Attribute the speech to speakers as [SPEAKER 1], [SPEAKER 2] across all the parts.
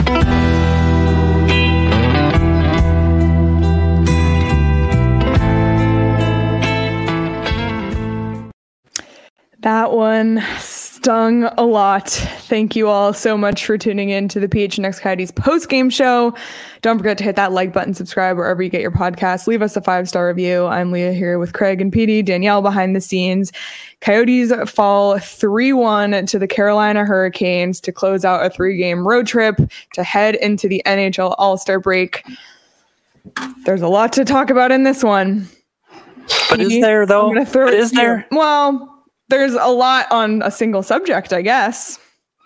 [SPEAKER 1] That one stung a lot. Thank you all so much for tuning in to the PHNX Coyotes post-game show. Don't forget to hit that like button, subscribe wherever you get your podcasts. Leave us a 5-star review. I'm Leah here with Craig and PD, Danielle behind the scenes. Coyotes fall 3-1 to the Carolina Hurricanes to close out a 3-game road trip to head into the NHL All-Star break. There's a lot to talk about in this one.
[SPEAKER 2] But is there, though? Is there?
[SPEAKER 1] Well, there's a lot on a single subject, I guess.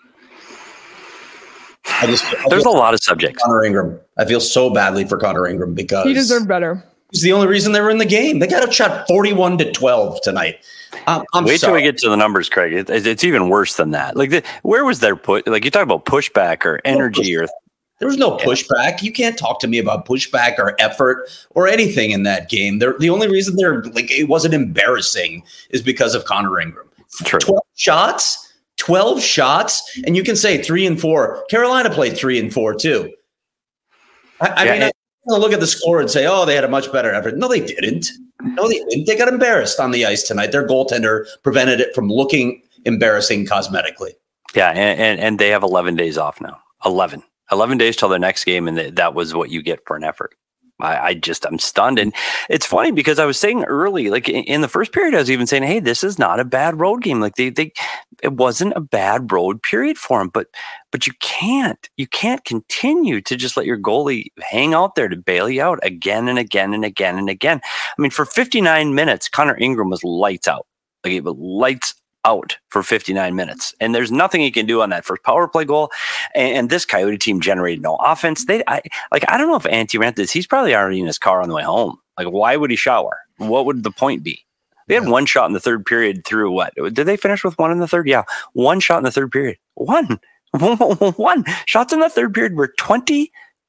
[SPEAKER 2] There's a lot of subjects.
[SPEAKER 3] Connor Ingram. I feel so badly for Connor Ingram because
[SPEAKER 1] he deserved better.
[SPEAKER 3] He's the only reason they were in the game. They got outshot 41-12 tonight.
[SPEAKER 2] Wait till we get to the numbers, Craig. It's even worse than that. Like, where was their put? Like, you talk about pushback or energy or.
[SPEAKER 3] There was no pushback. You can't talk to me about pushback or effort or anything in that game. The only reason it wasn't embarrassing is because of Connor Ingram.
[SPEAKER 2] True.
[SPEAKER 3] 12 shots, and you can say 3 and 4. Carolina played 3 and 4 too. I mean, I'm going to look at the score and say, oh, they had a much better effort. No, they didn't. They got embarrassed on the ice tonight. Their goaltender prevented it from looking embarrassing cosmetically.
[SPEAKER 2] Yeah, and they have 11 days off now. 11 days till their next game, and that was what you get for an effort. I'm stunned. And it's funny because I was saying early, like in the first period, I was even saying, hey, this is not a bad road game. Like it wasn't a bad road period for them, but you can't continue to just let your goalie hang out there to bail you out again and again and again and again. I mean, for 59 minutes, Connor Ingram was lights out. Like it was lights out for 59 minutes. And there's nothing he can do on that first power play goal. And this Coyote team generated no offense. I don't know if Antti ran this. He's probably already in his car on the way home. Like, why would he shower? What would the point be? They had one shot in the third period through what? Did they finish with one in the third? Yeah. One shot in the third period. One. Shots in the third period were 20-1.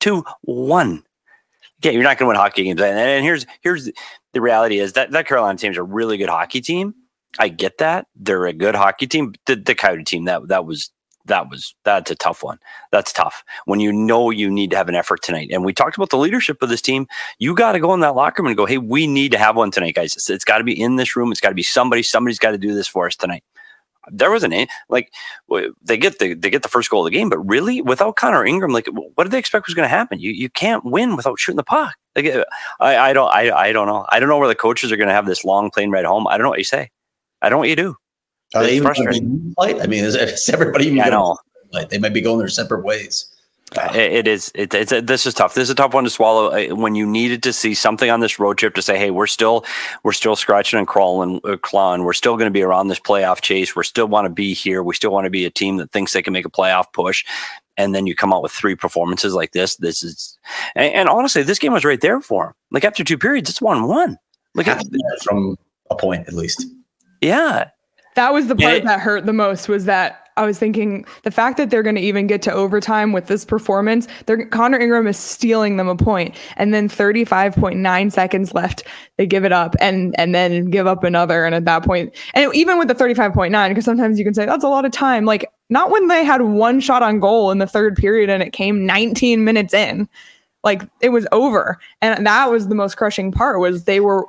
[SPEAKER 2] Yeah, you're not going to win hockey games. And here's the reality is that Carolina team is a really good hockey team. I get that. They're a good hockey team. The Coyote team, that's a tough one. That's tough. When you know you need to have an effort tonight. And we talked about the leadership of this team. You got to go in that locker room and go, hey, we need to have one tonight, guys. It's got to be in this room. It's got to be somebody's got to do this for us tonight. There wasn't any, like, they get the first goal of the game, but really without Connor Ingram, like, what did they expect was going to happen? You can't win without shooting the puck. Like, I don't know. I don't know where the coaches are going to have this long plane ride home. I don't know what you say. I don't know what you do.
[SPEAKER 3] Are they even frustrating? I mean, is everybody even going to they might be going their separate ways.
[SPEAKER 2] This is tough. This is a tough one to swallow when you needed to see something on this road trip to say, hey, we're still scratching and clawing. We're still going to be around this playoff chase. We still want to be here. We still want to be a team that thinks they can make a playoff push. And then you come out with 3 performances like this. This is, and honestly, this game was right there for them. Like after 2 periods, it's 1-1. Like
[SPEAKER 3] from a point at least.
[SPEAKER 2] Yeah.
[SPEAKER 1] That was the part that hurt the most, was that I was thinking the fact that they're going to even get to overtime with this performance, Connor Ingram is stealing them a point. And then 35.9 seconds left, they give it up and then give up another. And at that point, and even with the 35.9, because sometimes you can say that's a lot of time, like not when they had 1 shot on goal in the third period and it came 19 minutes in. Like it was over. And that was the most crushing part, was they were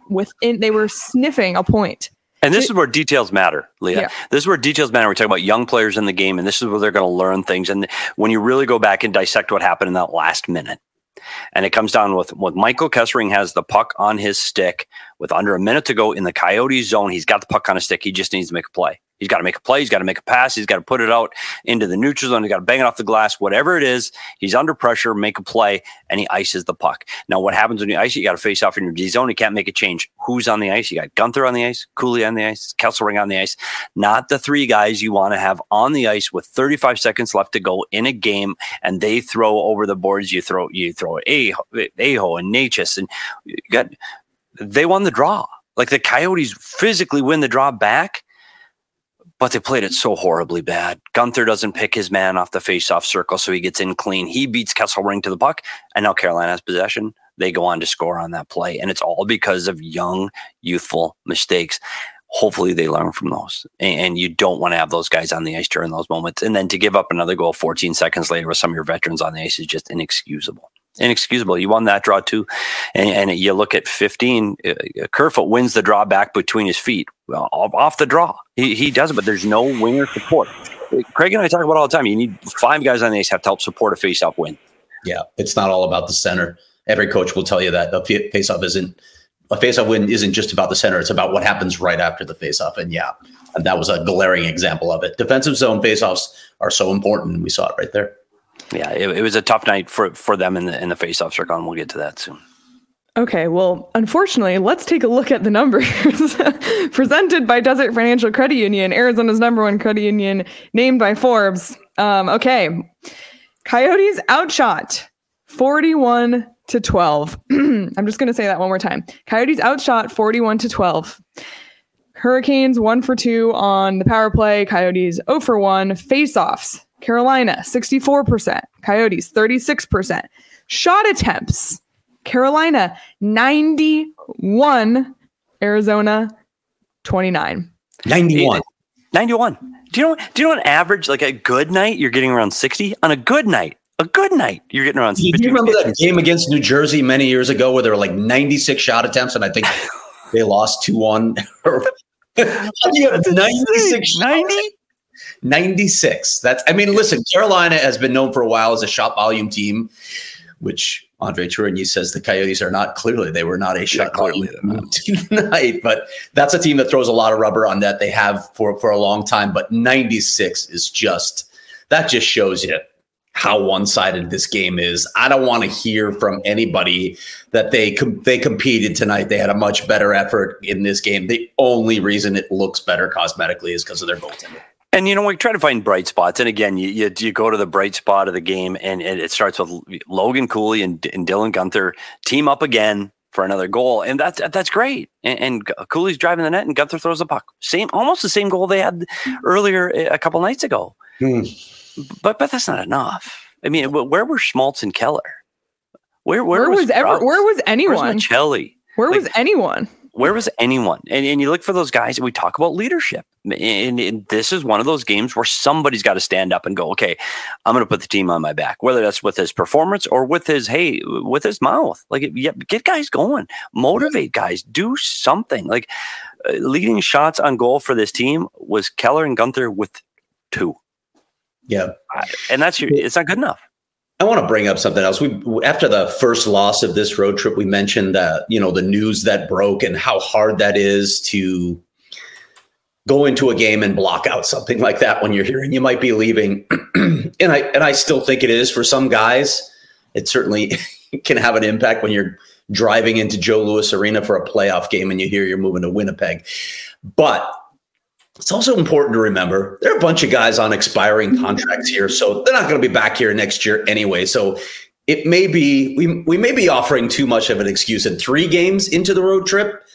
[SPEAKER 1] sniffing a point.
[SPEAKER 2] And this is where details matter, Leah. Yeah. This is where details matter. We're talking about young players in the game, and this is where they're going to learn things. And when you really go back and dissect what happened in that last minute, and it comes down with Michael Kessering has the puck on his stick with under a minute to go in the Coyote zone. He's got the puck on his stick. He just needs to make a play. He's got to make a play. He's got to make a pass. He's got to put it out into the neutral zone. He's got to bang it off the glass. Whatever it is, he's under pressure, make a play, and he ices the puck. Now, what happens when you ice it? You got to face off in your D zone. You can't make a change. Who's on the ice? You got Gunther on the ice, Cooley on the ice, Kesselring on the ice. Not the 3 guys you want to have on the ice with 35 seconds left to go in a game, and they throw over the boards. You throw Aho and Natchez, and they won the draw. Like the Coyotes physically win the draw back, but they played it so horribly bad. Gunther doesn't pick his man off the face-off circle, so he gets in clean. He beats Kesselring to the puck, and now Carolina has possession. They go on to score on that play, and it's all because of young, youthful mistakes. Hopefully they learn from those. And you don't want to have those guys on the ice during those moments. And then to give up another goal 14 seconds later with some of your veterans on the ice is just inexcusable. Inexcusable. You won that draw too. And you look at 15, Kerfoot wins the draw back between his feet. Well, off the draw. He does it, but there's no winger support. Craig and I talk about all the time. You need 5 guys on the ice have to help support a face-off win.
[SPEAKER 3] Yeah, it's not all about the center. Every coach will tell you that a face-off win isn't just about the center. It's about what happens right after the face-off. And that was a glaring example of it. Defensive zone face-offs are so important. And we saw it right there.
[SPEAKER 2] Yeah, it was a tough night for them in the face-off circle, and we'll get to that soon.
[SPEAKER 1] Okay, well, unfortunately, let's take a look at the numbers presented by Desert Financial Credit Union, Arizona's #1 credit union, named by Forbes. Okay, Coyotes outshot 41-12. I'm just going to say that one more time. Coyotes outshot 41-12. Hurricanes 1 for 2 on the power play. Coyotes 0 for 1. Face-offs. Carolina 64%. Coyotes 36%. Shot attempts. Carolina 91. Arizona 29.
[SPEAKER 3] 91.
[SPEAKER 2] 91. Do you know on average, like a good night, you're getting around 60? On a good night, you're getting around 60.
[SPEAKER 3] Do you remember that game against New Jersey many years ago where there were like 96 shot attempts and I think they lost 2-1? How do you have 96
[SPEAKER 2] 90?
[SPEAKER 3] 96. Listen, Carolina has been known for a while as a shot volume team, which Andre Tourigny says the Coyotes are not. Clearly, they were not a shot volume team tonight, but that's a team that throws a lot of rubber on that. They have for a long time, but 96 is just shows you how one-sided this game is. I don't want to hear from anybody that they competed tonight. They had a much better effort in this game. The only reason it looks better cosmetically is because of their goaltender.
[SPEAKER 2] And, we try to find bright spots. And again, you go to the bright spot of the game, and it starts with Logan Cooley and Dylan Guenther team up again for another goal. And that's great. And Cooley's driving the net, and Guenther throws the puck. Almost the same goal they had earlier a couple nights ago. But that's not enough. I mean, where were Schmaltz and Keller? Where was anyone?
[SPEAKER 1] Where's
[SPEAKER 2] Machelli?
[SPEAKER 1] Where was anyone?
[SPEAKER 2] Where was anyone? And you look for those guys, and we talk about leadership. And this is one of those games where somebody's got to stand up and go, okay, I'm going to put the team on my back, whether that's with his performance or with his mouth. Like, get guys going, motivate guys, do something. Like, leading shots on goal for this team was Keller and Guenther with 2.
[SPEAKER 3] Yeah.
[SPEAKER 2] And it's not good enough.
[SPEAKER 3] I want to bring up something else. After the first loss of this road trip, we mentioned that, the news that broke and how hard that is to go into a game and block out something like that when you're hearing you might be leaving. and I still think it is for some guys. It certainly can have an impact when you're driving into Joe Louis Arena for a playoff game and you hear you're moving to Winnipeg. But it's also important to remember there are a bunch of guys on expiring contracts here, so they're not going to be back here next year anyway. So it may be we may be offering too much of an excuse. And 3 games into the road trip,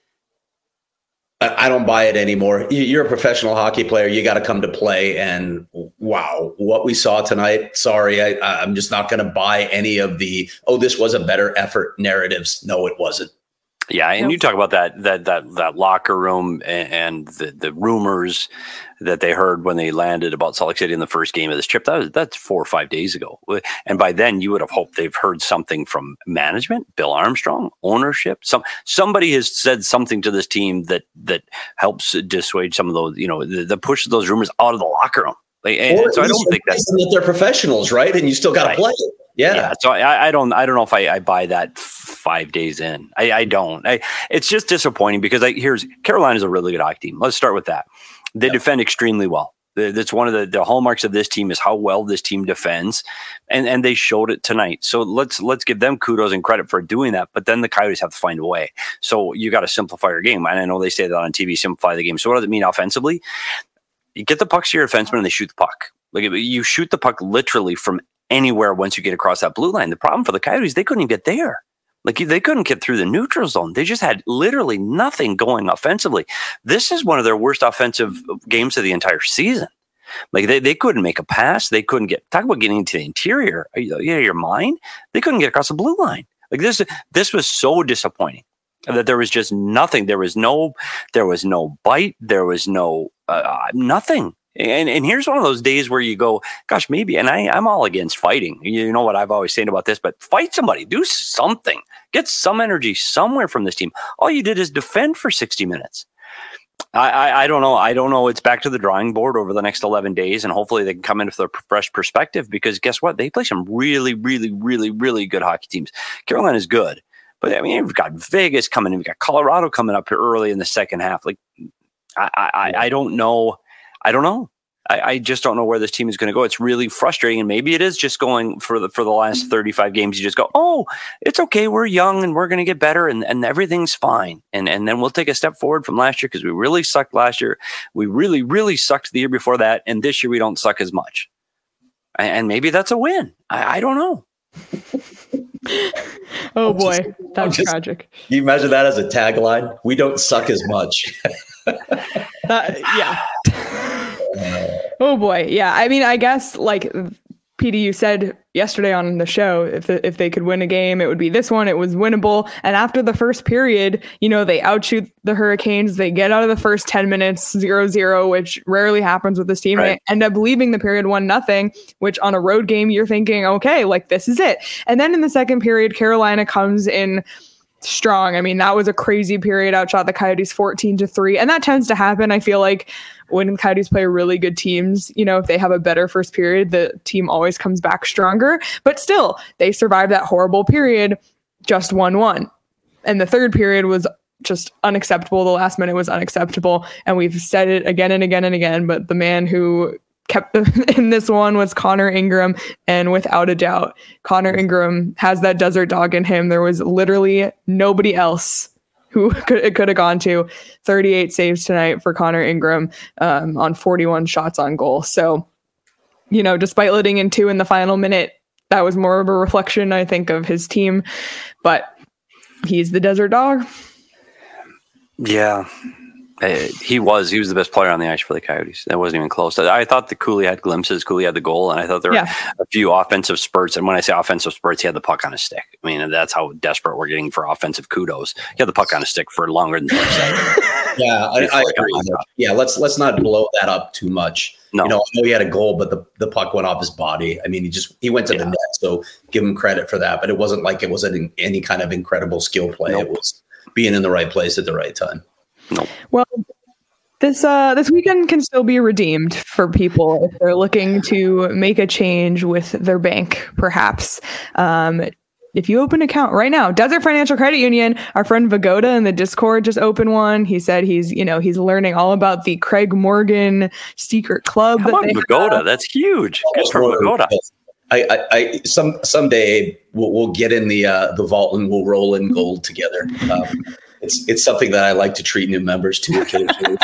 [SPEAKER 3] I don't buy it anymore. You're a professional hockey player. You got to come to play. And wow, what we saw tonight. Sorry, I'm just not going to buy any of the this was a better effort narratives. No, it wasn't.
[SPEAKER 2] Yeah, and you talk about that locker room and the rumors that they heard when they landed about Salt Lake City in the first game of this trip. That's 4 or 5 days ago, and by then you would have hoped they've heard something from management, Bill Armstrong, ownership. Somebody has said something to this team that helps dissuade some of those, that pushes those rumors out of the locker room. So I don't think
[SPEAKER 3] that they're professionals, right? And you still got to play. Yeah.
[SPEAKER 2] So I don't know if I buy that 5 days in. I don't. It's just disappointing because Carolina's a really good hockey team. Let's start with that. They defend extremely well. That's one of the hallmarks of this team is how well this team defends, and they showed it tonight. So let's give them kudos and credit for doing that. But then the Coyotes have to find a way. So you got to simplify your game. And I know they say that on TV, simplify the game. So what does it mean offensively? You get the pucks to your defenseman and they shoot the puck. Like you shoot the puck literally from anywhere once you get across that blue line. The problem for the Coyotes, they couldn't even get there. Like they couldn't get through the neutral zone. They just had literally nothing going offensively. This is one of their worst offensive games of the entire season. Like they couldn't make a pass. They couldn't talk about getting into the interior. Are you out of your mind? They couldn't get across the blue line. Like this was so disappointing. That there was just nothing. There was no bite. There was no nothing. And here's one of those days where you go, gosh, maybe. And I'm all against fighting. You know what I've always said about this, but fight somebody, do something, get some energy somewhere from this team. All you did is defend for 60 minutes. I don't know. I don't know. It's back to the drawing board over the next 11 days, and hopefully they can come in with a fresh perspective, because guess what? They play some really, really, really, really good hockey teams. Carolina is good, but I mean, we've got Vegas coming in. We've got Colorado coming up here early in the second half. Like, I don't know. I don't know. I just don't know where this team is going to go. It's really frustrating, and maybe it is just going for the last 35 games. You just go, oh, it's okay. We're young, and we're going to get better, and everything's fine. And then we'll take a step forward from last year, because we really sucked last year. We really, really sucked the year before that, and this year we don't suck as much. And maybe that's a win. I don't know.
[SPEAKER 1] Oh boy, that's tragic.
[SPEAKER 3] You imagine that as a tagline? We don't suck as much.
[SPEAKER 1] Yeah. Oh boy. Yeah. I mean, I guess like PD, you said yesterday on the show, if they could win a game, it would be this one. It was winnable. And after the first period, they outshoot the Hurricanes. They get out of the first 10 minutes 0-0, which rarely happens with this team. Right. They end up leaving the period 1-0, which on a road game, you're thinking, okay, like this is it. And then in the second period, Carolina comes in strong. I mean, that was a crazy period. Outshot the Coyotes 14-3. And that tends to happen. I feel like when Coyotes play really good teams, if they have a better first period, the team always comes back stronger. But still, they survived that horrible period, just 1-1. And the third period was just unacceptable. The last minute was unacceptable. And we've said it again and again and again. But the man who kept in this one was Connor Ingram. And without a doubt, Connor Ingram has that desert dog in him. There was literally nobody else who it could have gone to. 38 saves tonight for Connor Ingram on 41 shots on goal. So, despite letting in 2 in the final minute, that was more of a reflection, I think, of his team. But he's the desert dog.
[SPEAKER 2] Yeah. He was the best player on the ice for the Coyotes. That wasn't even close. I thought that Cooley had glimpses. Cooley had the goal, and I thought there were a few offensive spurts. And when I say offensive spurts, he had the puck on his stick. I mean, that's how desperate we're getting for offensive kudos. He had the puck on his stick for longer than 30 seconds.
[SPEAKER 3] Yeah, I agree. Yeah, let's not blow that up too much. No. I know he had a goal, but the puck went off his body. I mean, he went to the net, so give him credit for that. But it wasn't like it was any kind of incredible skill play. Nope. It was being in the right place at the right time.
[SPEAKER 2] No.
[SPEAKER 1] Well, this weekend can still be redeemed for people if they're looking to make a change with their bank, perhaps. If you open an account right now, Desert Financial Credit Union, our friend Vagoda in the Discord just opened one. He said he's learning all about the Craig Morgan secret club.
[SPEAKER 2] Come on, Vagoda, that's huge. Good for Vagoda.
[SPEAKER 3] Someday we'll get in the vault and we'll roll in gold together. It's something that I like to treat new members to occasionally.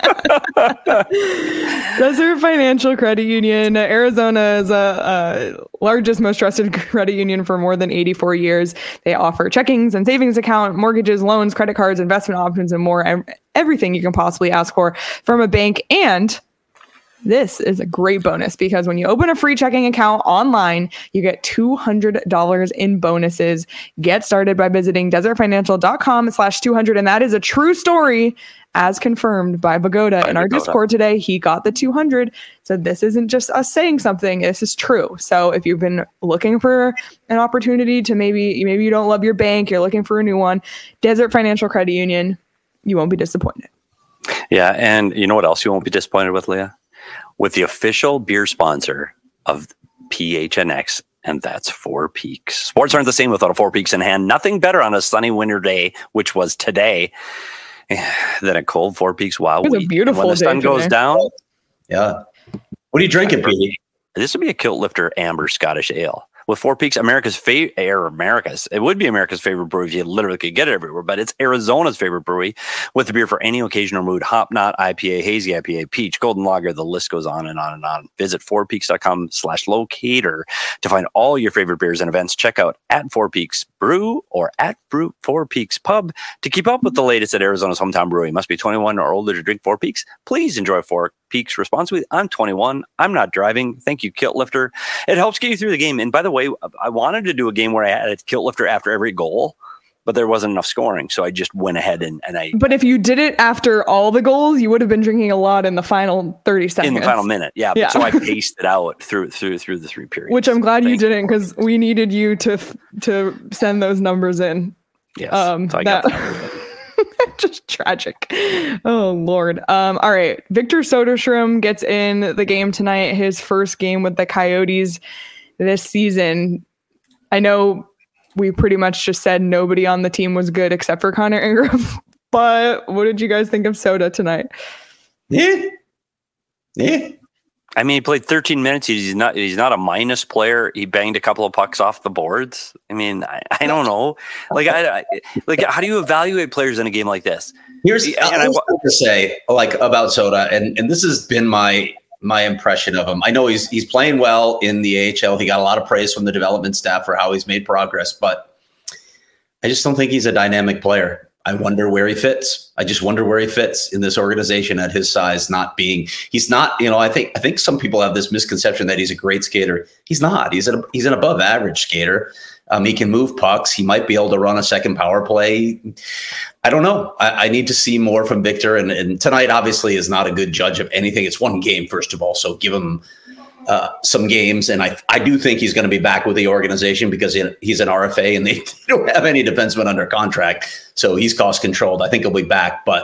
[SPEAKER 1] Desert Financial Credit Union, Arizona's largest, most trusted credit union for more than 84 years. They offer checkings and savings account, mortgages, loans, credit cards, investment options, and more. Everything you can possibly ask for from a bank. And this is a great bonus, because when you open a free checking account online, you get $200 in bonuses. Get started by visiting desertfinancial.com/200. And that is a true story, as confirmed by Vagoda in our Discord today. He got the 200. So this isn't just us saying something. This is true. So if you've been looking for an opportunity to maybe you don't love your bank, you're looking for a new one, Desert Financial Credit Union, you won't be disappointed.
[SPEAKER 2] Yeah. And you know what else you won't be disappointed with, Leah? With the official beer sponsor of PHNX, and that's Four Peaks. Sports aren't the same without a Four Peaks in hand. Nothing better on a sunny winter day, which was today, than a cold Four Peaks Wild Wheat.
[SPEAKER 1] It was a beautiful
[SPEAKER 2] day. When the sun goes down.
[SPEAKER 3] Yeah. What are you drinking, Pete?
[SPEAKER 2] This would be a Kilt Lifter Amber Scottish Ale. With Four Peaks, it would be America's favorite brewery if you literally could get it everywhere, but it's Arizona's favorite brewery with the beer for any occasion or mood. Hop Knot, IPA, Hazy IPA, Peach, Golden Lager, the list goes on and on and on. Visit fourpeaks.com/locator to find all your favorite beers and events. Check out at Four Peaks Brew or at Four Peaks Pub to keep up with the latest at Arizona's hometown brewery. You must be 21 or older to drink Four Peaks. Please enjoy Four Peaks responsibly. I'm 21. I'm not driving. Thank you, Kilt Lifter. It helps get you through the game. And by the way, I wanted to do a game where I had a Kilt Lifter after every goal, but there wasn't enough scoring. So I just went ahead and I.
[SPEAKER 1] But if you did it after all the goals, you would have been drinking a lot in the final 30 seconds.
[SPEAKER 2] In the final minute. Yeah. Yeah. So I paced it out through the 3 periods.
[SPEAKER 1] Which I'm glad you didn't, because we needed you to send those numbers in.
[SPEAKER 2] Yes. So I got that.
[SPEAKER 1] Just tragic. Oh, Lord. All right. Victor Soderstrom gets in the game tonight, his first game with the Coyotes this season. I know we pretty much just said nobody on the team was good except for Connor Ingram, but what did you guys think of Soda tonight?
[SPEAKER 3] Yeah.
[SPEAKER 2] I mean, he played 13 minutes. He's not a minus player. He banged a couple of pucks off the boards. I mean, I don't know. How do you evaluate players in a game like this?
[SPEAKER 3] I want to say about Soda, and this has been my impression of him. I know he's playing well in the AHL. He got a lot of praise from the development staff for how he's made progress, but I just don't think he's a dynamic player. I wonder where he fits. I just wonder where he fits in this organization at his size, he's not, I think some people have this misconception that he's a great skater. He's not. He's an above average skater. He can move pucks. He might be able to run a second power play. I don't know. I need to see more from Victor. And tonight obviously is not a good judge of anything. It's one game, first of all. So give him some games. And I do think he's going to be back with the organization because he's an RFA and they don't have any defenseman under contract. So he's cost controlled. I think he'll be back, but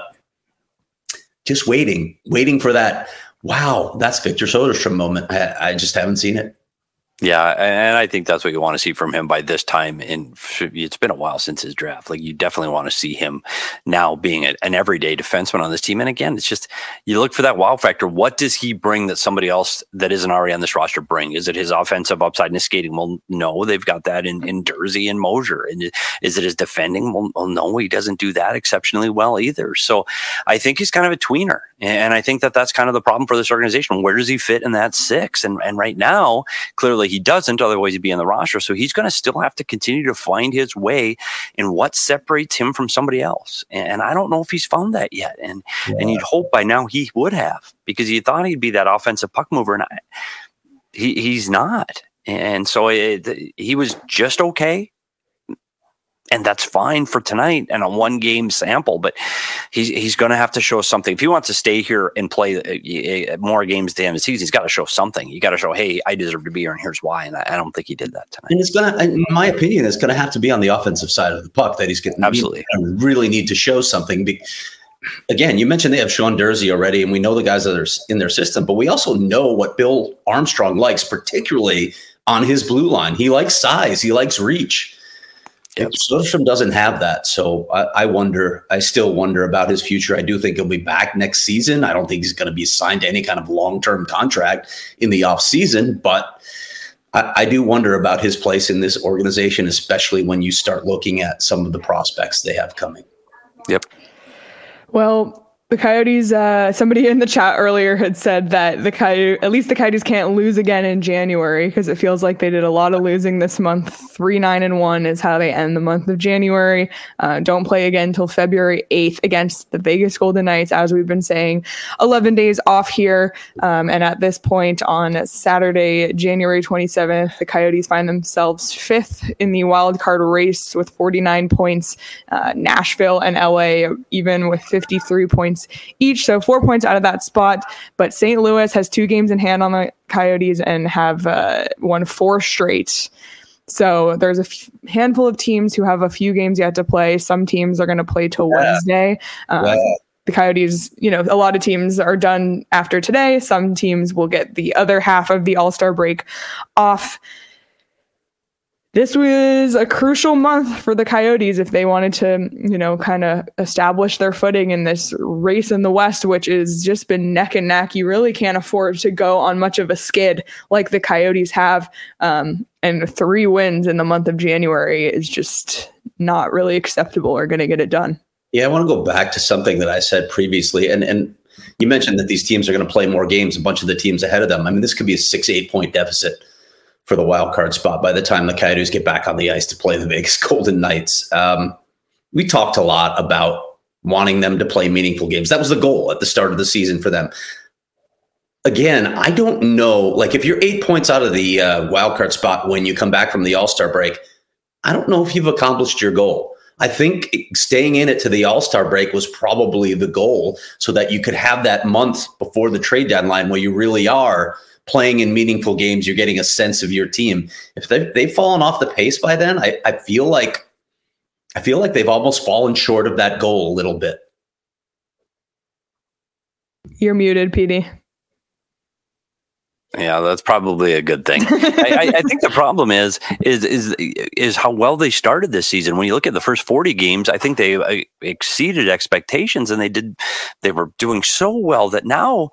[SPEAKER 3] just waiting for that. Wow, that's Victor Soderstrom moment. I just haven't seen it.
[SPEAKER 2] Yeah, and I think that's what you want to see from him by this time. And it's been a while since his draft. You definitely want to see him now being an everyday defenseman on this team. And again, it's just, you look for that wow factor. What does he bring that somebody else that isn't already on this roster bring? Is it his offensive upside and his skating? Well, no, they've got that in Durzi and Mosier. And is it his defending? Well, no, he doesn't do that exceptionally well either. So I think he's kind of a tweener. And I think that's kind of the problem for this organization. Where does he fit in that 6? And right now, clearly he doesn't, otherwise he'd be in the roster. So he's going to still have to continue to find his way in what separates him from somebody else. And I don't know if he's found that yet. And you'd hope by now he would have, because you thought he'd be that offensive puck mover, and he's not. And so he was just okay. And that's fine for tonight and a 1-game sample, but he's going to have to show something. If he wants to stay here and play more games at the end of the season, he's got to show something. You got to show, hey, I deserve to be here, and here's why. And I don't think he did that tonight.
[SPEAKER 3] And it's going to, in my opinion, it's going to have to be on the offensive side of the puck that he's going to really need to show something. Again, you mentioned they have Sean Durzi already, and we know the guys that are in their system, but we also know what Bill Armstrong likes, particularly on his blue line. He likes size. He likes reach. Yep. Soderstrom doesn't have that. So I still wonder about his future. I do think he'll be back next season. I don't think he's going to be signed to any kind of long-term contract in the off season, but I do wonder about his place in this organization, especially when you start looking at some of the prospects they have coming.
[SPEAKER 2] Yep.
[SPEAKER 1] Well, the Coyotes, somebody in the chat earlier had said that at least the Coyotes can't lose again in January, because it feels like they did a lot of losing this month. 3-9-1 is how they end the month of January. Don't play again until February 8th against the Vegas Golden Knights, as we've been saying. 11 days off here. And at this point on Saturday, January 27th, the Coyotes find themselves 5th in the wild card race with 49 points. Nashville and LA even with 53 points each, so 4 points out of that spot. But St. Louis has 2 games in hand on the Coyotes and have won 4 straight. So there's a handful of teams who have a few games yet to play. Some teams are going to play till Wednesday. The Coyotes, a lot of teams are done after today. Some teams will get the other half of the All-Star break off. This was a crucial month for the Coyotes if they wanted to, kind of establish their footing in this race in the West, which has just been neck and neck. You really can't afford to go on much of a skid like the Coyotes have. And 3 wins in the month of January is just not really acceptable or going to get it done.
[SPEAKER 3] Yeah, I want to go back to something that I said previously. And you mentioned that these teams are going to play more games, a bunch of the teams ahead of them. I mean, this could be a 6-8 point deficit for the wild card spot by the time the Coyotes get back on the ice to play the Vegas Golden Knights. We talked a lot about wanting them to play meaningful games. That was the goal at the start of the season for them. Again, I don't know, if you're 8 points out of the wild card spot when you come back from the All-Star break, I don't know if you've accomplished your goal. I think staying in it to the All-Star break was probably the goal, so that you could have that month before the trade deadline where you really are playing in meaningful games. You're getting a sense of your team. If they've fallen off the pace by then, I feel like they've almost fallen short of that goal a little bit.
[SPEAKER 1] You're muted, PD.
[SPEAKER 2] Yeah, that's probably a good thing. I think the problem is how well they started this season. When you look at the first 40 games, I think they exceeded expectations, and they were doing so well that now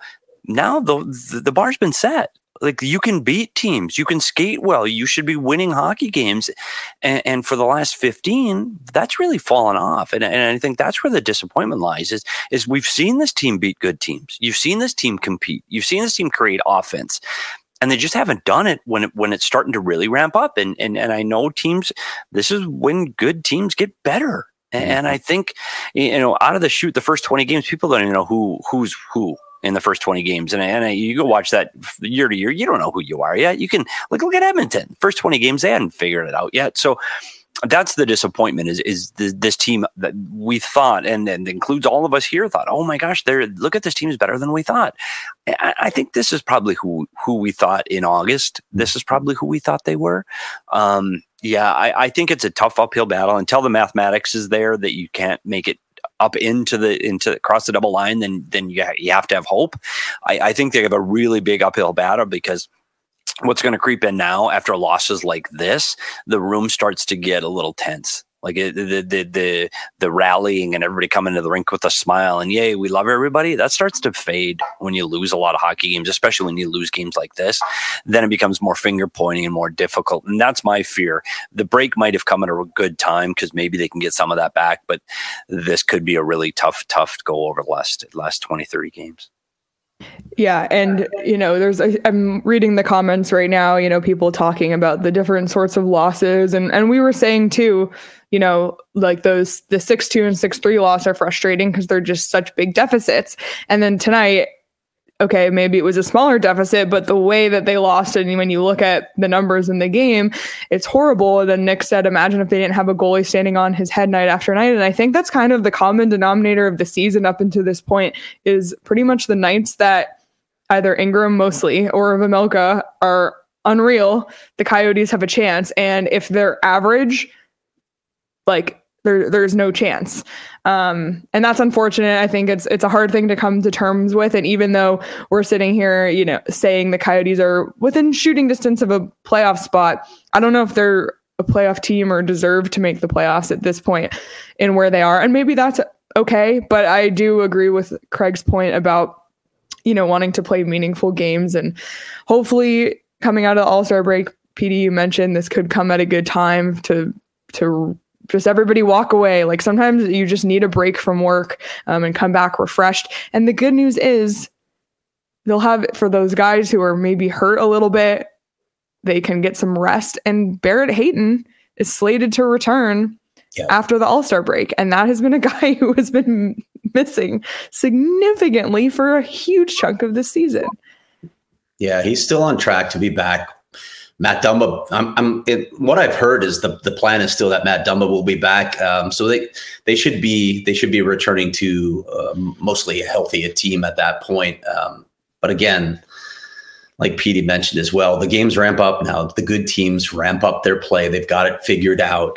[SPEAKER 2] the bar's been set. Like, you can beat teams, you can skate well, you should be winning hockey games, and for the last 15, that's really fallen off. And I think that's where the disappointment lies. Is we've seen this team beat good teams, you've seen this team compete, you've seen this team create offense, and they just haven't done it when it's starting to really ramp up. And I know teams, this is when good teams get better. And I think, out of the chute, the first 20 games, people don't even know who's who in the first 20 games. And you go watch that year to year, you don't know who you are yet. You can look at Edmonton. First 20 games, they hadn't figured it out yet. So that's the disappointment is this team that we thought, and includes all of us here, thought, oh my gosh, look at this team is better than we thought. I think this is probably who we thought in August. This is probably who we thought they were. I think it's a tough uphill battle until the mathematics is there that you can't make it up into across the double line. Then you have to have hope. I think they have a really big uphill battle, because what's going to creep in now after losses like this, the room starts to get a little tense. Like the rallying and everybody coming to the rink with a smile and yay, we love everybody. That starts to fade when you lose a lot of hockey games, especially when you lose games like this. Then it becomes more finger pointing and more difficult. And that's my fear. The break might have come at a good time because maybe they can get some of that back, but this could be a really tough go over the last 20, 30 games.
[SPEAKER 1] Yeah. And, I'm reading the comments right now, people talking about the different sorts of losses. And we were saying too, like the 6-2 and 6-3 loss are frustrating because they're just such big deficits. And then tonight, okay, maybe it was a smaller deficit, but the way that they lost it, and when you look at the numbers in the game, it's horrible. And then Nick said, imagine if they didn't have a goalie standing on his head night after night. And I think that's kind of the common denominator of the season up until this point, is pretty much the nights that either Ingram mostly or Vejmelka are unreal, the Coyotes have a chance. And if they're average, there's no chance. And that's unfortunate. I think it's a hard thing to come to terms with. And even though we're sitting here, saying the Coyotes are within shooting distance of a playoff spot, I don't know if they're a playoff team or deserve to make the playoffs at this point in where they are. And maybe that's okay. But I do agree with Craig's point about, wanting to play meaningful games, and hopefully coming out of the All-Star break, PD, you mentioned this could come at a good time to just everybody walk away. Like, sometimes you just need a break from work and come back refreshed. And the good news is they'll have, for those guys who are maybe hurt a little bit, they can get some rest. And Barrett Hayton is slated to return after the All-Star break. And that has been a guy who has been missing significantly for a huge chunk of this season.
[SPEAKER 3] Yeah, he's still on track to be back. Matt Dumba, what I've heard is the plan is still that Matt Dumba will be back. So they should be returning to mostly a healthy team at that point. But again, like Petey mentioned as well, the games ramp up now. The good teams ramp up their play. They've got it figured out.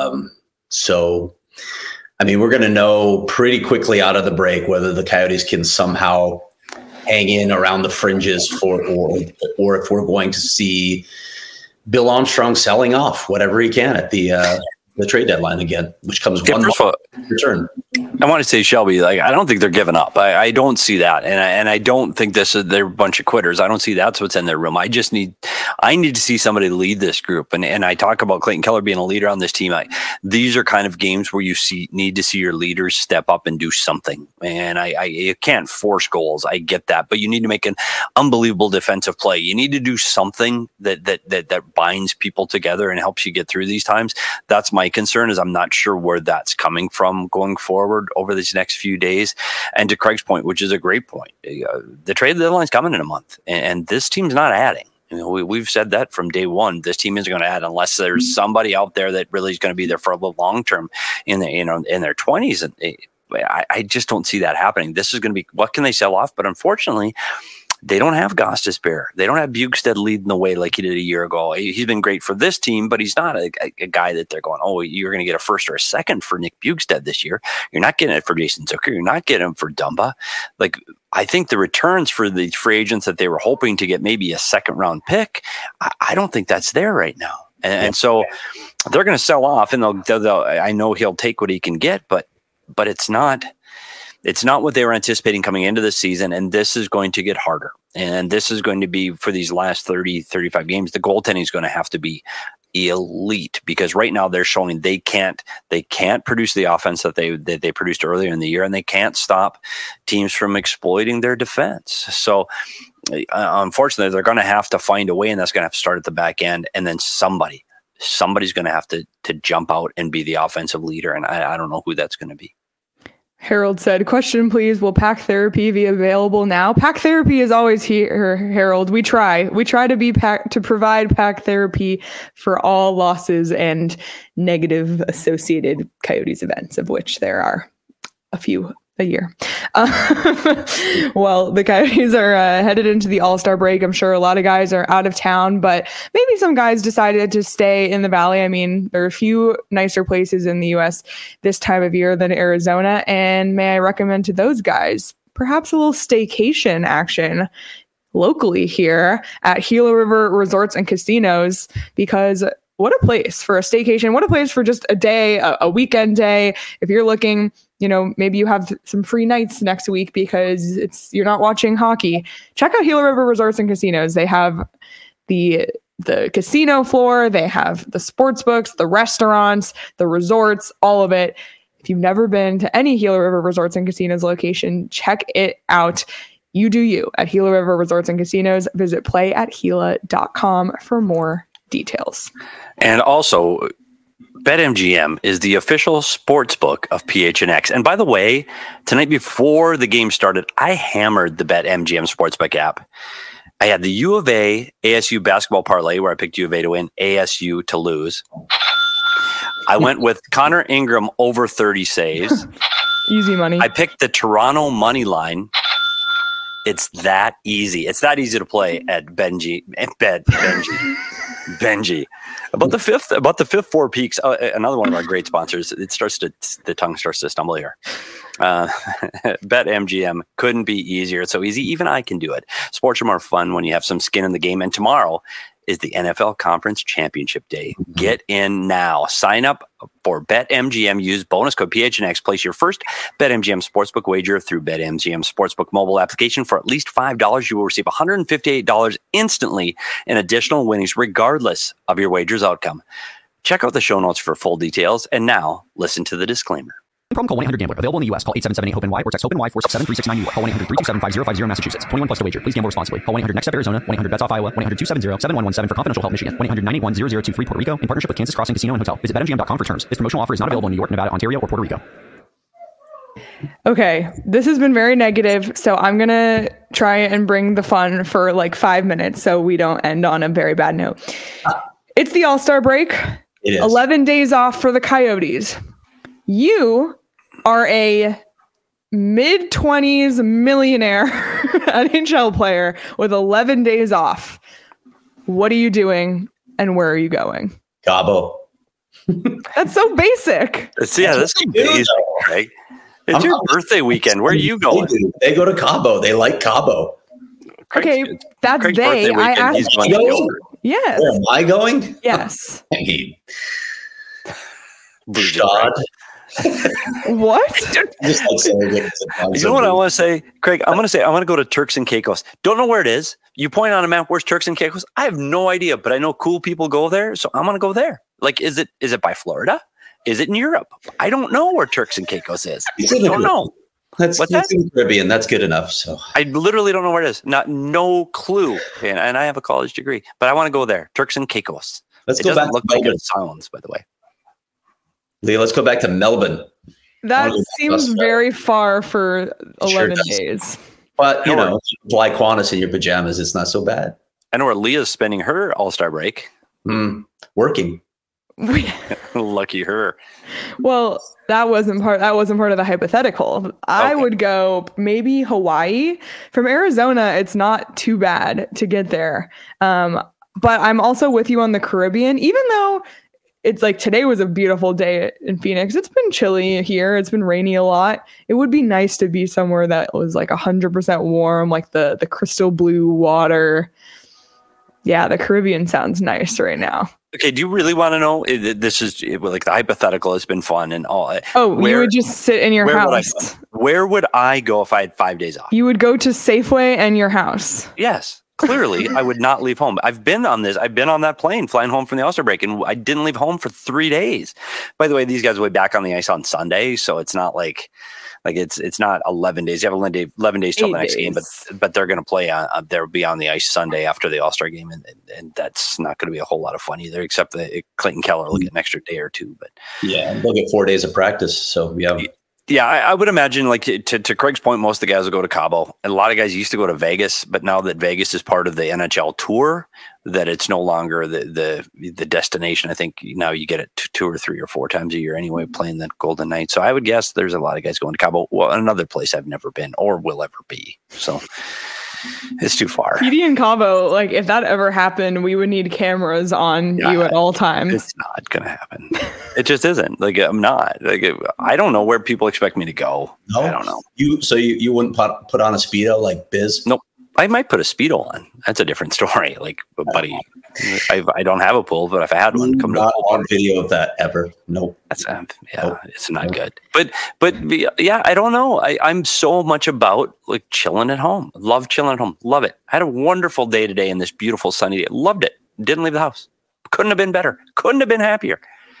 [SPEAKER 3] So, we're going to know pretty quickly out of the break whether the Coyotes can somehow hang in around the fringes or if we're going to see Bill Armstrong selling off whatever he can at the trade deadline again, which comes one month return.
[SPEAKER 2] I want to say, Shelby, I don't think they're giving up. I don't see that, and I don't think they're a bunch of quitters. I don't see that's what's in their room. I need to see somebody lead this group, and I talk about Clayton Keller being a leader on this team. These are kind of games where you need to see your leaders step up and do something. And you can't force goals. I get that, but you need to make an unbelievable defensive play. You need to do something that binds people together and helps you get through these times. That's my concern, is I'm not sure where that's coming from going forward over these next few days. And to Craig's point, which is a great point, the trade deadline's coming in a month, and this team's not adding. We've said that from day one. This team isn't going to add unless there's somebody out there that really is going to be there for the long term in their 20s. And I just don't see that happening. This is going to be, what can they sell off? But unfortunately, they don't have Gostisbehere. They don't have Bjugstad leading the way like he did a year ago. He's been great for this team, but he's not a guy that they're going, oh, you're going to get a first or a second for Nick Bjugstad this year. You're not getting it for Jason Zucker. You're not getting him for Dumba. Like, I think the returns for the free agents that they were hoping to get maybe a second round pick, I don't think that's there right now. And so they're going to sell off, and they'll I know he'll take what he can get, but it's not what they were anticipating coming into the season, and this is going to get harder. And this is going to be, for these last 30, 35 games, the goaltending is going to have to be elite, because right now they're showing they can't produce the offense that they produced earlier in the year, and they can't stop teams from exploiting their defense. So unfortunately, they're going to have to find a way, and that's going to have to start at the back end, and then somebody's going to have to jump out and be the offensive leader, and I don't know who that's going to be.
[SPEAKER 1] Harold said, question, please. Will Pack Therapy be available now? Pack Therapy is always here, Harold. We try to provide Pack Therapy for all losses and negative associated Coyotes events, of which there are a few a year. Well, the Coyotes are headed into the All-Star break. I'm sure a lot of guys are out of town, but maybe some guys decided to stay in the Valley. I mean, there are a few nicer places in the U.S. this time of year than Arizona, and may I recommend to those guys perhaps a little staycation action locally here at Gila River Resorts and Casinos, because what a place for a staycation. What a place for just a day, a weekend day. If you're looking, maybe you have some free nights next week because you're not watching hockey. Check out Gila River Resorts and Casinos. They have the casino floor. They have the sports books, the restaurants, the resorts, all of it. If you've never been to any Gila River Resorts and Casinos location, check it out. You do you at Gila River Resorts and Casinos. Visit playatgila.com for more details.
[SPEAKER 2] And also, BetMGM is the official sports book of PHNX. And by the way, tonight before the game started, I hammered the BetMGM Sportsbook app. I had the U of A ASU basketball parlay where I picked U of A to win, ASU to lose. I went with Connor Ingram over 30 saves.
[SPEAKER 1] Easy money.
[SPEAKER 2] I picked the Toronto money line. It's that easy. It's that easy to play at Benji. About the fifth Four Peaks, another one of our great sponsors. The tongue starts to stumble here. BetMGM couldn't be easier. It's so easy. Even I can do it. Sports are more fun when you have some skin in the game. And tomorrow is the NFL Conference Championship Day. Get in now. Sign up for BetMGM. Use bonus code PHNX. Place your first BetMGM Sportsbook wager through BetMGM Sportsbook mobile application for at least $5. You will receive $158 instantly in additional winnings, regardless of your wager's outcome. Check out the show notes for full details. And now, listen to the disclaimer.
[SPEAKER 4] Problem, call 1-800-GAMBLER. Available in the U.S. Call 877-8-HOPE-NY or text HOPE-NY 467-369-NY. Call 1-800-327-5050 Massachusetts. 21 plus to wager. Please gamble responsibly. Call 1-800-NEXT-STEP Arizona. 1-800-BETS-OFF Iowa. 1-800-270-7117 for confidential help Michigan. 1-800-981-0023 Puerto Rico in partnership with Kansas Crossing Casino and Hotel. Visit BetMGM.com for terms. This promotional offer is not available in New York, Nevada, Ontario, or Puerto Rico.
[SPEAKER 1] Okay, this has been very negative, so I'm going to try and bring the fun for like 5 minutes so we don't end on a very bad note. It's the All-Star break.
[SPEAKER 3] It is.
[SPEAKER 1] 11 days off for the Coyotes. You are a mid-20s millionaire NHL player with 11 days off. What are you doing and where are you going?
[SPEAKER 3] Cabo.
[SPEAKER 1] That's so basic.
[SPEAKER 2] That's so basic, right? It's your birthday weekend. Where are you going?
[SPEAKER 3] They go to Cabo. They like Cabo.
[SPEAKER 1] Okay, that's
[SPEAKER 2] Craig's
[SPEAKER 1] they. I asked
[SPEAKER 3] you.
[SPEAKER 1] Yes.
[SPEAKER 3] Where am I going?
[SPEAKER 1] Yes.
[SPEAKER 3] Shad.
[SPEAKER 1] What?
[SPEAKER 3] Just like saying it.
[SPEAKER 2] You know what I want to say, Craig? I want to go to Turks and Caicos. Don't know where it is. You point on a map. Where's Turks and Caicos? I have no idea, but I know cool people go there, so I'm gonna go there. Like, is it by Florida? Is it in Europe? I don't know where Turks and Caicos is. I don't know.
[SPEAKER 3] That's in the Caribbean. That's good enough. So
[SPEAKER 2] I literally don't know where it is. No clue. And I have a college degree, but I want to go there. Turks and Caicos.
[SPEAKER 3] Let's go back.
[SPEAKER 2] Look like it sounds, by the way.
[SPEAKER 3] Leah, let's go back to Melbourne.
[SPEAKER 1] That seems very far for 11 days.
[SPEAKER 3] But, fly Qantas in your pajamas, it's not so bad.
[SPEAKER 2] I know where Leah's spending her All-Star break.
[SPEAKER 3] Working.
[SPEAKER 2] Lucky her.
[SPEAKER 1] Well, that wasn't part of the hypothetical. I would go maybe Hawaii. From Arizona, it's not too bad to get there. But I'm also with you on the Caribbean, even though it's like today was a beautiful day in Phoenix. It's been chilly here. It's been rainy a lot. It would be nice to be somewhere that was like 100% warm, like the crystal blue water. Yeah, the Caribbean sounds nice right now.
[SPEAKER 2] Okay, do you really want to know? This is like the hypothetical has been fun and all.
[SPEAKER 1] Oh, you would just sit in your house.
[SPEAKER 2] Where would I go if I had 5 days off?
[SPEAKER 1] You would go to Safeway and your house.
[SPEAKER 2] Yes. Clearly, I would not leave home. I've been on that plane flying home from the All-Star break, and I didn't leave home for 3 days. By the way, these guys will be back on the ice on Sunday, so it's not like it's not 11 days. You have 11 days till the next game, but they're going to play on. They'll be on the ice Sunday after the All-Star game, and that's not going to be a whole lot of fun either. Except that Clayton Keller will get an extra day or two. But
[SPEAKER 3] yeah, they'll get 4 days of practice. So yeah.
[SPEAKER 2] Yeah, I would imagine, like to Craig's point, most of the guys will go to Cabo. And a lot of guys used to go to Vegas, but now that Vegas is part of the NHL tour, that it's no longer the destination. I think now you get it 2 or 3 or 4 times a year anyway, playing the Golden Knights. So I would guess there's a lot of guys going to Cabo. Well, another place I've never been or will ever be. So it's too far.
[SPEAKER 1] PD and Cabo, like if that ever happened, we would need cameras on you at all times.
[SPEAKER 2] It's not going to happen. It just isn't. Like I'm not. Like I don't know where people expect me to go. No? I don't know.
[SPEAKER 3] You wouldn't put on a Speedo like Biz?
[SPEAKER 2] Nope. I might put a Speedo on. That's a different story. Like, buddy, I don't have a pool, but if I had one, come to the pool
[SPEAKER 3] on video of that ever. Nope.
[SPEAKER 2] That's it's not good. But yeah, I don't know. I'm so much about like chilling at home. Love chilling at home. Love it. I had a wonderful day today in this beautiful sunny day. Loved it. Didn't leave the house. Couldn't have been better. Couldn't have been happier.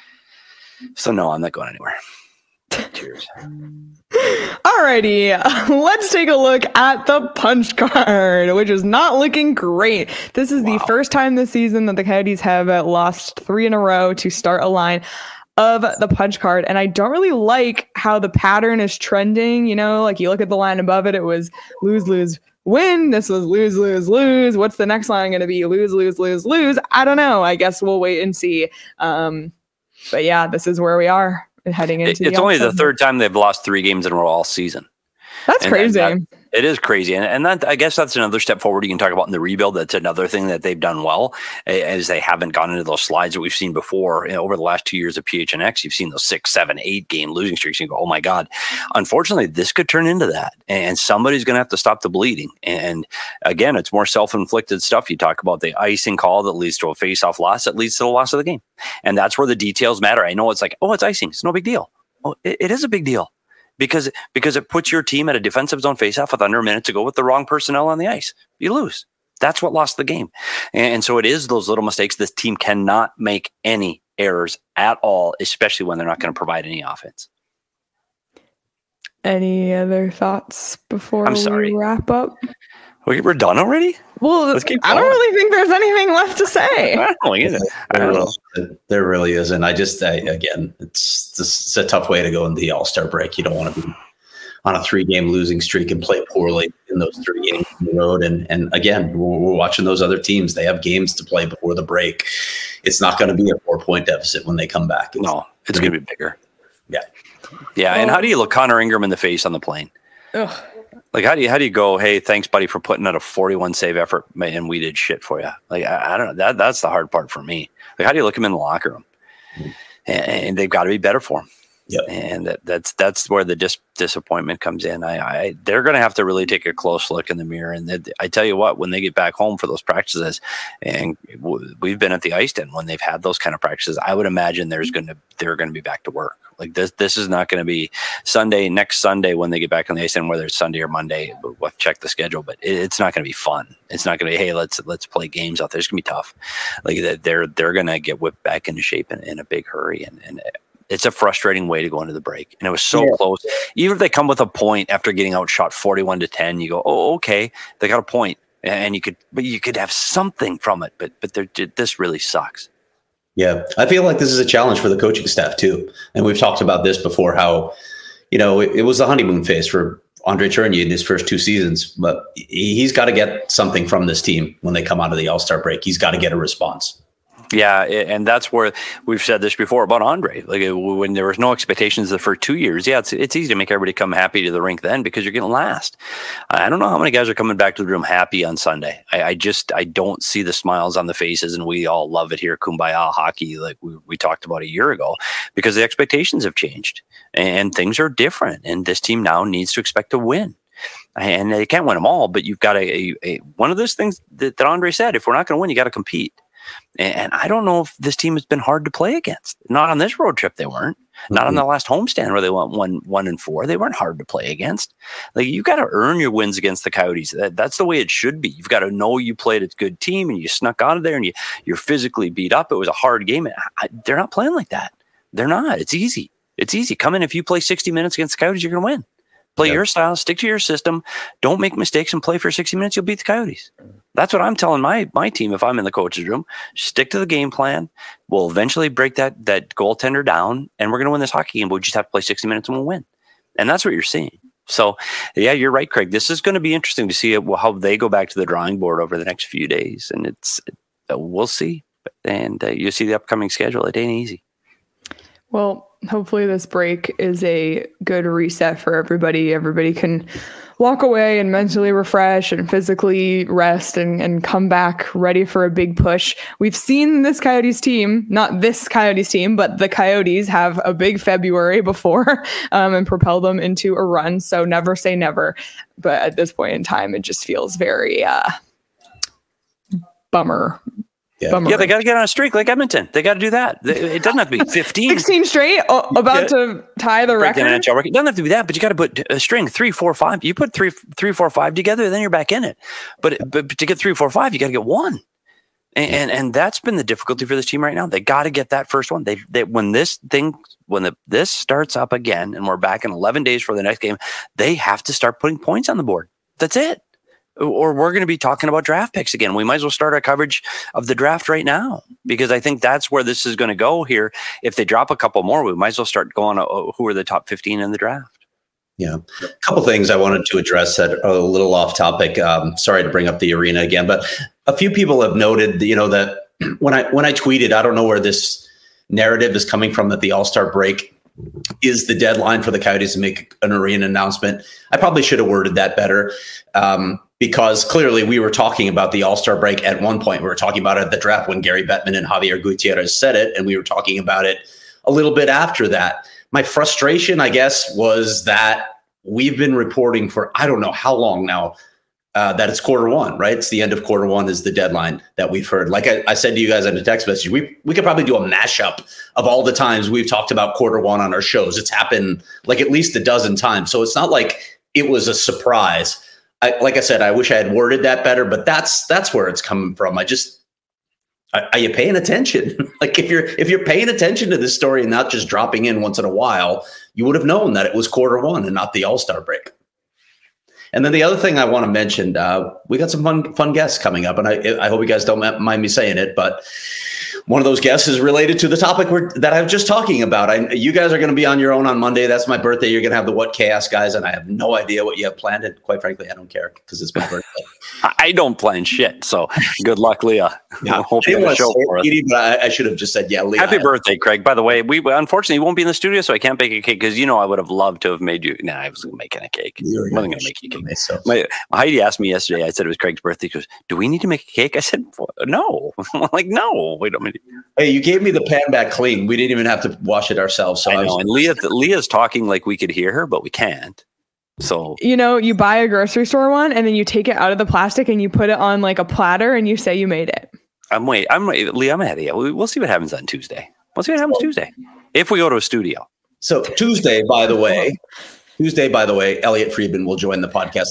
[SPEAKER 2] So no, I'm not going anywhere. Cheers.
[SPEAKER 1] Alrighty, let's take a look at the punch card, which is not looking great. This is the first time this season that the Coyotes have lost 3 in a row to start a line of the punch card. And I don't really like how the pattern is trending. You know, like you look at the line above it, it was lose, lose, win. This was lose, lose, lose. What's the next line going to be? Lose, lose, lose, lose. I don't know. I guess we'll wait and see. But yeah, this is where we are heading into
[SPEAKER 2] it's only the third time they've lost 3 games in a row all season.
[SPEAKER 1] That's crazy.
[SPEAKER 2] It is crazy. And that, I guess that's another step forward you can talk about in the rebuild. That's another thing that they've done well, as they haven't gone into those slides that we've seen before. Over the last 2 years of PHNX, you've seen those 6, 7, 8 game losing streaks. You go, oh my God. Unfortunately, this could turn into that. And somebody's going to have to stop the bleeding. And again, it's more self-inflicted stuff. You talk about the icing call that leads to a face-off loss that leads to the loss of the game. And that's where the details matter. I know it's like, oh, it's icing. It's no big deal. Oh, it is a big deal. Because it puts your team at a defensive zone faceoff with under a minute to go with the wrong personnel on the ice. You lose. That's what lost the game. And so it is those little mistakes. This team cannot make any errors at all, especially when they're not going to provide any offense.
[SPEAKER 1] Any other thoughts before we wrap up?
[SPEAKER 2] We're done already?
[SPEAKER 1] Well, I don't really think there's anything left to say.
[SPEAKER 2] I don't know.
[SPEAKER 3] There really isn't. Again, it's a tough way to go in the All-Star break. You don't want to be on a 3-game losing streak and play poorly in those 3 games on the road. And again, we're watching those other teams. They have games to play before the break. It's not going to be a 4-point deficit when they come back.
[SPEAKER 2] It's going to be bigger.
[SPEAKER 3] Yeah.
[SPEAKER 2] Yeah. And how do you look Connor Ingram in the face on the plane?
[SPEAKER 1] Ugh.
[SPEAKER 2] Like, how do you go, hey, thanks, buddy, for putting out a 41 save effort, and we did shit for you? Like, I don't know. That's the hard part for me. Like, how do you look him in the locker room? And they've got to be better for him.
[SPEAKER 3] Yep.
[SPEAKER 2] And that's where the disappointment comes in. They're going to have to really take a close look in the mirror. And I tell you what, when they get back home for those practices, and we've been at the ice den when they've had those kind of practices, I would imagine they're going to be back to work. Like this is not going to be next Sunday when they get back on the ice den, whether it's Sunday or Monday. We'll check the schedule, but it's not going to be fun. It's not going to be, hey, let's play games out there. It's going to be tough. Like they're going to get whipped back into shape in a big hurry, and it's a frustrating way to go into the break. And it was so close. Even if they come with a point after getting outshot 41-10, you go, oh, okay, they got a point. And you could have something from it, but this really sucks.
[SPEAKER 3] Yeah. I feel like this is a challenge for the coaching staff too. And we've talked about this before, how, it was the honeymoon phase for Andre Tourigny in his first 2 seasons, but he's got to get something from this team when they come out of the All-Star break. He's got to get a response.
[SPEAKER 2] Yeah, and that's where we've said this before about Andre. Like when there was no expectations for 2 years, it's easy to make everybody come happy to the rink then because you're getting last. I don't know how many guys are coming back to the room happy on Sunday. I don't see the smiles on the faces, and we all love it here, Kumbaya hockey, like we talked about a year ago, because the expectations have changed and things are different, and this team now needs to expect to win. And they can't win them all, but you've got a one of those things that Andre said: if we're not going to win, you got to compete. And I don't know if this team has been hard to play against. Not on this road trip, they weren't. Not on the last homestand where they went 1-4. They weren't hard to play against. Like, you've got to earn your wins against the Coyotes. That's the way it should be. You've got to know you played a good team and you snuck out of there and you're physically beat up. It was a hard game. They're not playing like that. They're not. It's easy. It's easy. Come in. If you play 60 minutes against the Coyotes, you're going to win. Play your style, stick to your system, don't make mistakes, and play for 60 minutes. You'll beat the Coyotes. That's what I'm telling my team if I'm in the coach's room. Stick to the game plan. We'll eventually break that goaltender down, and we're going to win this hockey game, but we just have to play 60 minutes and we'll win. And that's what you're seeing. So, yeah, you're right, Craig. This is going to be interesting to see how they go back to the drawing board over the next few days, and we'll see. And you see the upcoming schedule. It ain't easy.
[SPEAKER 1] Well, hopefully this break is a good reset for everybody. Everybody can walk away and mentally refresh and physically rest and come back ready for a big push. We've seen this Coyotes team, not this Coyotes team, but the Coyotes have a big February before and propel them into a run. So never say never. But at this point in time, it just feels very bummer.
[SPEAKER 2] Yeah, they got to get on a streak like Edmonton. They got to do that. It doesn't have to be 15.
[SPEAKER 1] 16 straight, to tie the record.
[SPEAKER 2] It doesn't have to be that, but you got to put a string 3, 4, 5. You put 3, 4, 5 together, then you're back in it. But to get 3, 4, 5, you got to get 1. And that's been the difficulty for this team right now. They got to get that first one. When this starts up again, and we're back in 11 days for the next game, they have to start putting points on the board. That's it. Or we're going to be talking about draft picks again. We might as well start our coverage of the draft right now, because I think that's where this is going to go here. If they drop a couple more, we might as well start going who are the top 15 in the draft.
[SPEAKER 3] Yeah. A couple things I wanted to address that are a little off topic. Sorry to bring up the arena again, but a few people have noted, that when I tweeted, I don't know where this narrative is coming from, that the All-Star break is the deadline for the Coyotes to make an arena announcement. I probably should have worded that better. Because clearly we were talking about the All-Star break at one point. We were talking about it at the draft when Gary Bettman and Javier Gutierrez said it, and we were talking about it a little bit after that. My frustration, I guess, was that we've been reporting for I don't know how long now that it's Q1, right? It's the end of Q1 is the deadline that we've heard. Like I said to you guys in a text message, we could probably do a mashup of all the times we've talked about Q1 on our shows. It's happened like at least a dozen times. So it's not like it was a surprise. Like I said, I wish I had worded that better, but that's where it's coming from. Are you paying attention? Like if you're paying attention to this story and not just dropping in once in a while, you would have known that it was Q1 and not the All-Star break. And then the other thing I want to mention, we got some fun guests coming up, and I hope you guys don't mind me saying it, but one of those guests is related to the topic that I was just talking about. You guys are going to be on your own on Monday. That's my birthday. You're going to have the What Chaos guys, and I have no idea what you have planned. And quite frankly, I don't care because it's my birthday.
[SPEAKER 2] I don't plan shit. So good luck, Leah.
[SPEAKER 3] Yeah,
[SPEAKER 2] hope you have a show for us.
[SPEAKER 3] But I should have just said, yeah, Leah.
[SPEAKER 2] Happy birthday, Craig. By the way, we unfortunately won't be in the studio, so I can't bake a cake because I would have loved to have made you. Nah, I wasn't making a cake. I wasn't going to make you a cake. So. Heidi asked me yesterday. I said it was Craig's birthday. She goes, "Do we need to make a cake?" I said, "No." I'm like, "No, we don't need."
[SPEAKER 3] Hey, you gave me the pan back clean. We didn't even have to wash it ourselves. So
[SPEAKER 2] I know. And Leah's talking like we could hear her, but we can't. So
[SPEAKER 1] you buy a grocery store one and then you take it out of the plastic and you put it on like a platter and you say you made it.
[SPEAKER 2] I'm Leah. I'm ahead of you. We'll see what happens on Tuesday. We'll see what happens Tuesday if we go to a studio.
[SPEAKER 3] So Tuesday, by the way, Elliot Friedman will join the podcast.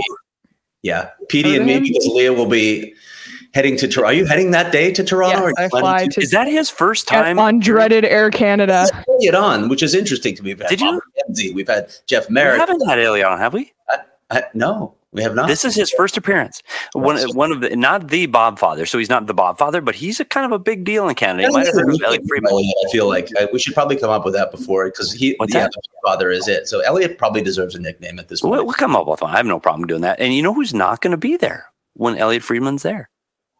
[SPEAKER 3] Petey and me, because Leah will be heading to Toronto. Are you heading that day to Toronto?
[SPEAKER 1] Yes, I fly to.
[SPEAKER 2] Is that his first time
[SPEAKER 1] on dreaded Air Canada?
[SPEAKER 3] It on, which is interesting to me. We've had We've had Jeff Merritt.
[SPEAKER 2] We haven't had Elliot on, have we?
[SPEAKER 3] No. We have not.
[SPEAKER 2] This is his first appearance. One of the, not the Bob father. So he's not the Bob father, but he's a kind of a big deal in Canada. You might have heard of Elliot Friedman.
[SPEAKER 3] I feel like we should probably come up with that before, because the father is it. So Elliot probably deserves a nickname at this point.
[SPEAKER 2] We'll come up with one. I have no problem doing that. And you know who's not going to be there when Elliot Friedman's there?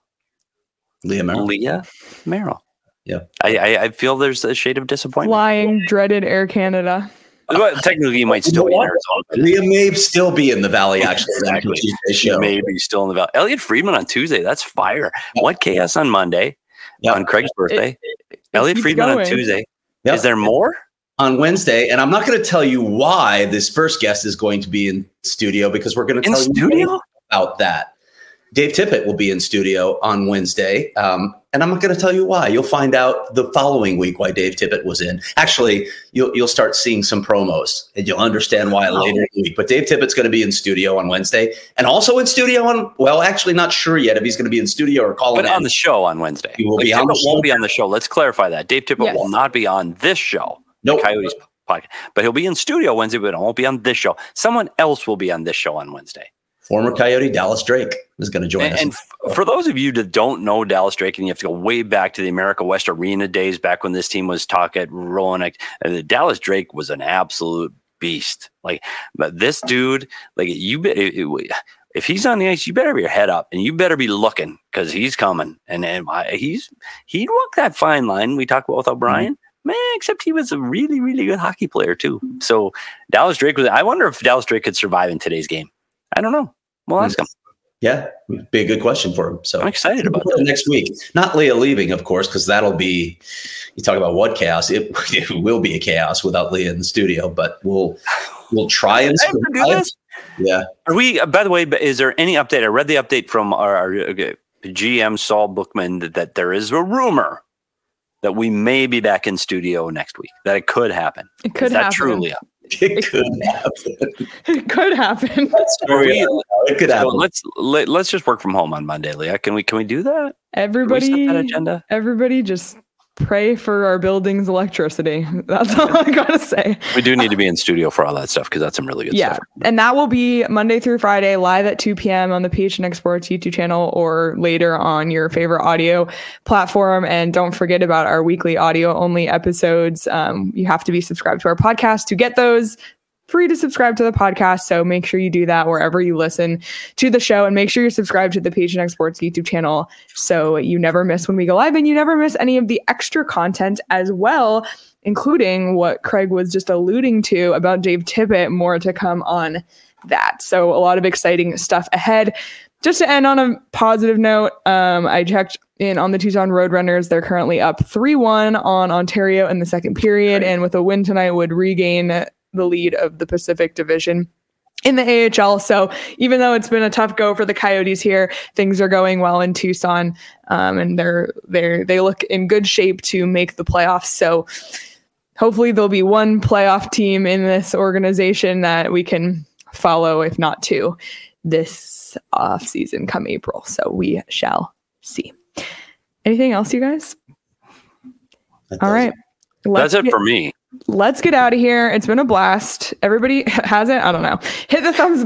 [SPEAKER 3] Leah Merrill.
[SPEAKER 2] Leah Merrill.
[SPEAKER 3] Yeah.
[SPEAKER 2] I feel there's a shade of disappointment.
[SPEAKER 1] Flying dreaded Air Canada.
[SPEAKER 2] Well, technically, you might still be in Arizona.
[SPEAKER 3] Leah may still be in the Valley, actually.
[SPEAKER 2] Exactly. She may be still in the Valley. Elliot Friedman on Tuesday. That's fire. Yep. What chaos on Monday? Yep. On Craig's birthday. Elliot Friedman on Tuesday. Yep. Is there more?
[SPEAKER 3] On Wednesday, and I'm not going to tell you why this first guest is going to be in studio, because we're going to tell you about that. Dave Tippett will be in studio on Wednesday, and I'm not going to tell you why. You'll find out the following week why Dave Tippett was in. Actually, you'll start seeing some promos, and you'll understand why later in the week. But Dave Tippett's going to be in studio on Wednesday, and also in studio on, well, actually not sure yet if he's going to be in studio or calling in.
[SPEAKER 2] But on the show on Wednesday.
[SPEAKER 3] He will be on the show.
[SPEAKER 2] Won't be on the show. Let's clarify that. Dave Tippett will not be on this show.
[SPEAKER 3] Nope.
[SPEAKER 2] Coyotes podcast. But he'll be in studio Wednesday, but it won't be on this show. Someone else will be on this show on Wednesday.
[SPEAKER 3] Former Coyote Dallas Drake is going to join us.
[SPEAKER 2] And for those of you that don't know Dallas Drake, and you have to go way back to the America West Arena days, back when this team was talking at Roanoke, Dallas Drake was an absolute beast. Like, but this dude, like, if he's on the ice, you better be your head up, and you better be looking, because he's coming. And he'd walk that fine line we talked about with O'Brien. Man, except he was a really, really good hockey player too. So Dallas Drake I wonder if Dallas Drake could survive in today's game. I don't know. We'll ask him.
[SPEAKER 3] Yeah, it'd be a good question for him. So
[SPEAKER 2] I'm excited about that.
[SPEAKER 3] Next week. Not Leah leaving, of course, because that'll be, you talk about what chaos. It will be a chaos without Leah in the studio, but we'll try and
[SPEAKER 2] do this.
[SPEAKER 3] Yeah.
[SPEAKER 2] Are we, by the way, is there any update? I read the update from our GM, Saul Bookman, that there is a rumor that we may be back in studio next week, that it could happen.
[SPEAKER 1] It could happen.
[SPEAKER 2] Is that true, Leah?
[SPEAKER 3] It could happen.
[SPEAKER 1] It could happen.
[SPEAKER 3] It could happen.
[SPEAKER 2] Let's just work from home on Monday, Leah. Can we do that?
[SPEAKER 1] Everybody,
[SPEAKER 2] can we set that agenda?
[SPEAKER 1] Everybody just pray for our building's electricity. That's all I gotta say.
[SPEAKER 2] We do need to be in studio for all that stuff, because that's some really good stuff.
[SPEAKER 1] And that will be Monday through Friday, live at 2 p.m. on the PHNX Sports YouTube channel, or later on your favorite audio platform. And don't forget about our weekly audio only episodes. You have to be subscribed to our podcast to get those. Free to subscribe to the podcast, so make sure you do that wherever you listen to the show, and make sure you're subscribed to the PHNX Sports YouTube channel so you never miss when we go live, and you never miss any of the extra content as well, including what Craig was just alluding to about Dave Tippett. More to come on that. So a lot of exciting stuff ahead. Just to end on a positive note, I checked in on the Tucson Roadrunners. They're currently up 3-1 on Ontario in the second period, and with a win tonight would regain the lead of the Pacific Division in the AHL. So even though it's been a tough go for the Coyotes here, things are going well in Tucson, and they look in good shape to make the playoffs. So hopefully there'll be one playoff team in this organization that we can follow, if not two, this off season come April. So we shall see. Anything else, you guys? All right.
[SPEAKER 2] That's it for me.
[SPEAKER 1] Let's get out of here. It's been a blast. Everybody has it? I don't know. Hit the thumbs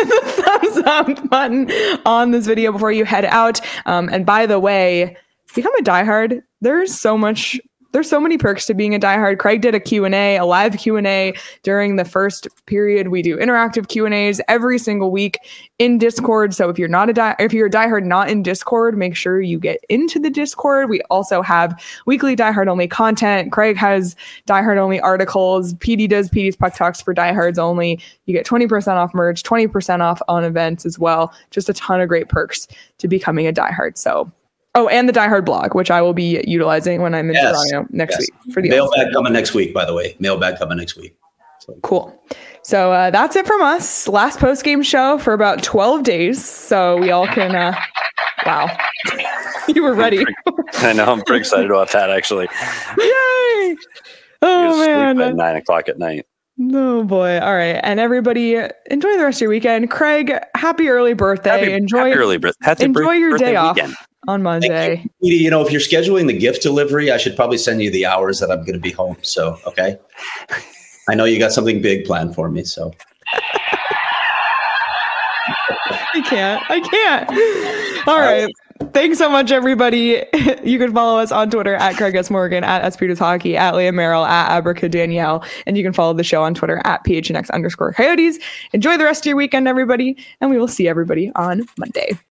[SPEAKER 1] up button on this video before you head out. And by the way, become a diehard. There's so many perks to being a diehard. Craig did a live Q&A during the first period. We do interactive Q&As every single week in Discord. So if you're a diehard not in Discord, make sure you get into the Discord. We also have weekly diehard only content. Craig has diehard only articles. PD does PD's Puck Talks for diehards only. You get 20% off merch, 20% off on events as well. Just a ton of great perks to becoming a diehard. So and the Die Hard blog, which I will be utilizing when I'm in Toronto next week. For the
[SPEAKER 3] mailbag coming next week, by the way. Mailbag coming next week. So.
[SPEAKER 1] Cool. So that's it from us. Last post-game show for about 12 days. So we all can... wow. You were ready.
[SPEAKER 2] I know. I'm pretty excited about that, actually.
[SPEAKER 1] Yay! Oh, man.
[SPEAKER 2] At 9 o'clock at night.
[SPEAKER 1] Oh, boy. All right. And everybody, enjoy the rest of your weekend. Craig, happy early birthday. Enjoy your day off. On Monday.
[SPEAKER 3] You know, if you're scheduling the gift delivery, I should probably send you the hours that I'm going to be home. So, okay. I know you got something big planned for me. So
[SPEAKER 1] I can't. All right. Thanks so much, everybody. You can follow us on Twitter at Craig S. Morgan, at SPeters Hockey, at Leah Merrill, at Abrica Danielle. And you can follow the show on Twitter at PHNX_Coyotes. Enjoy the rest of your weekend, everybody. And we will see everybody on Monday.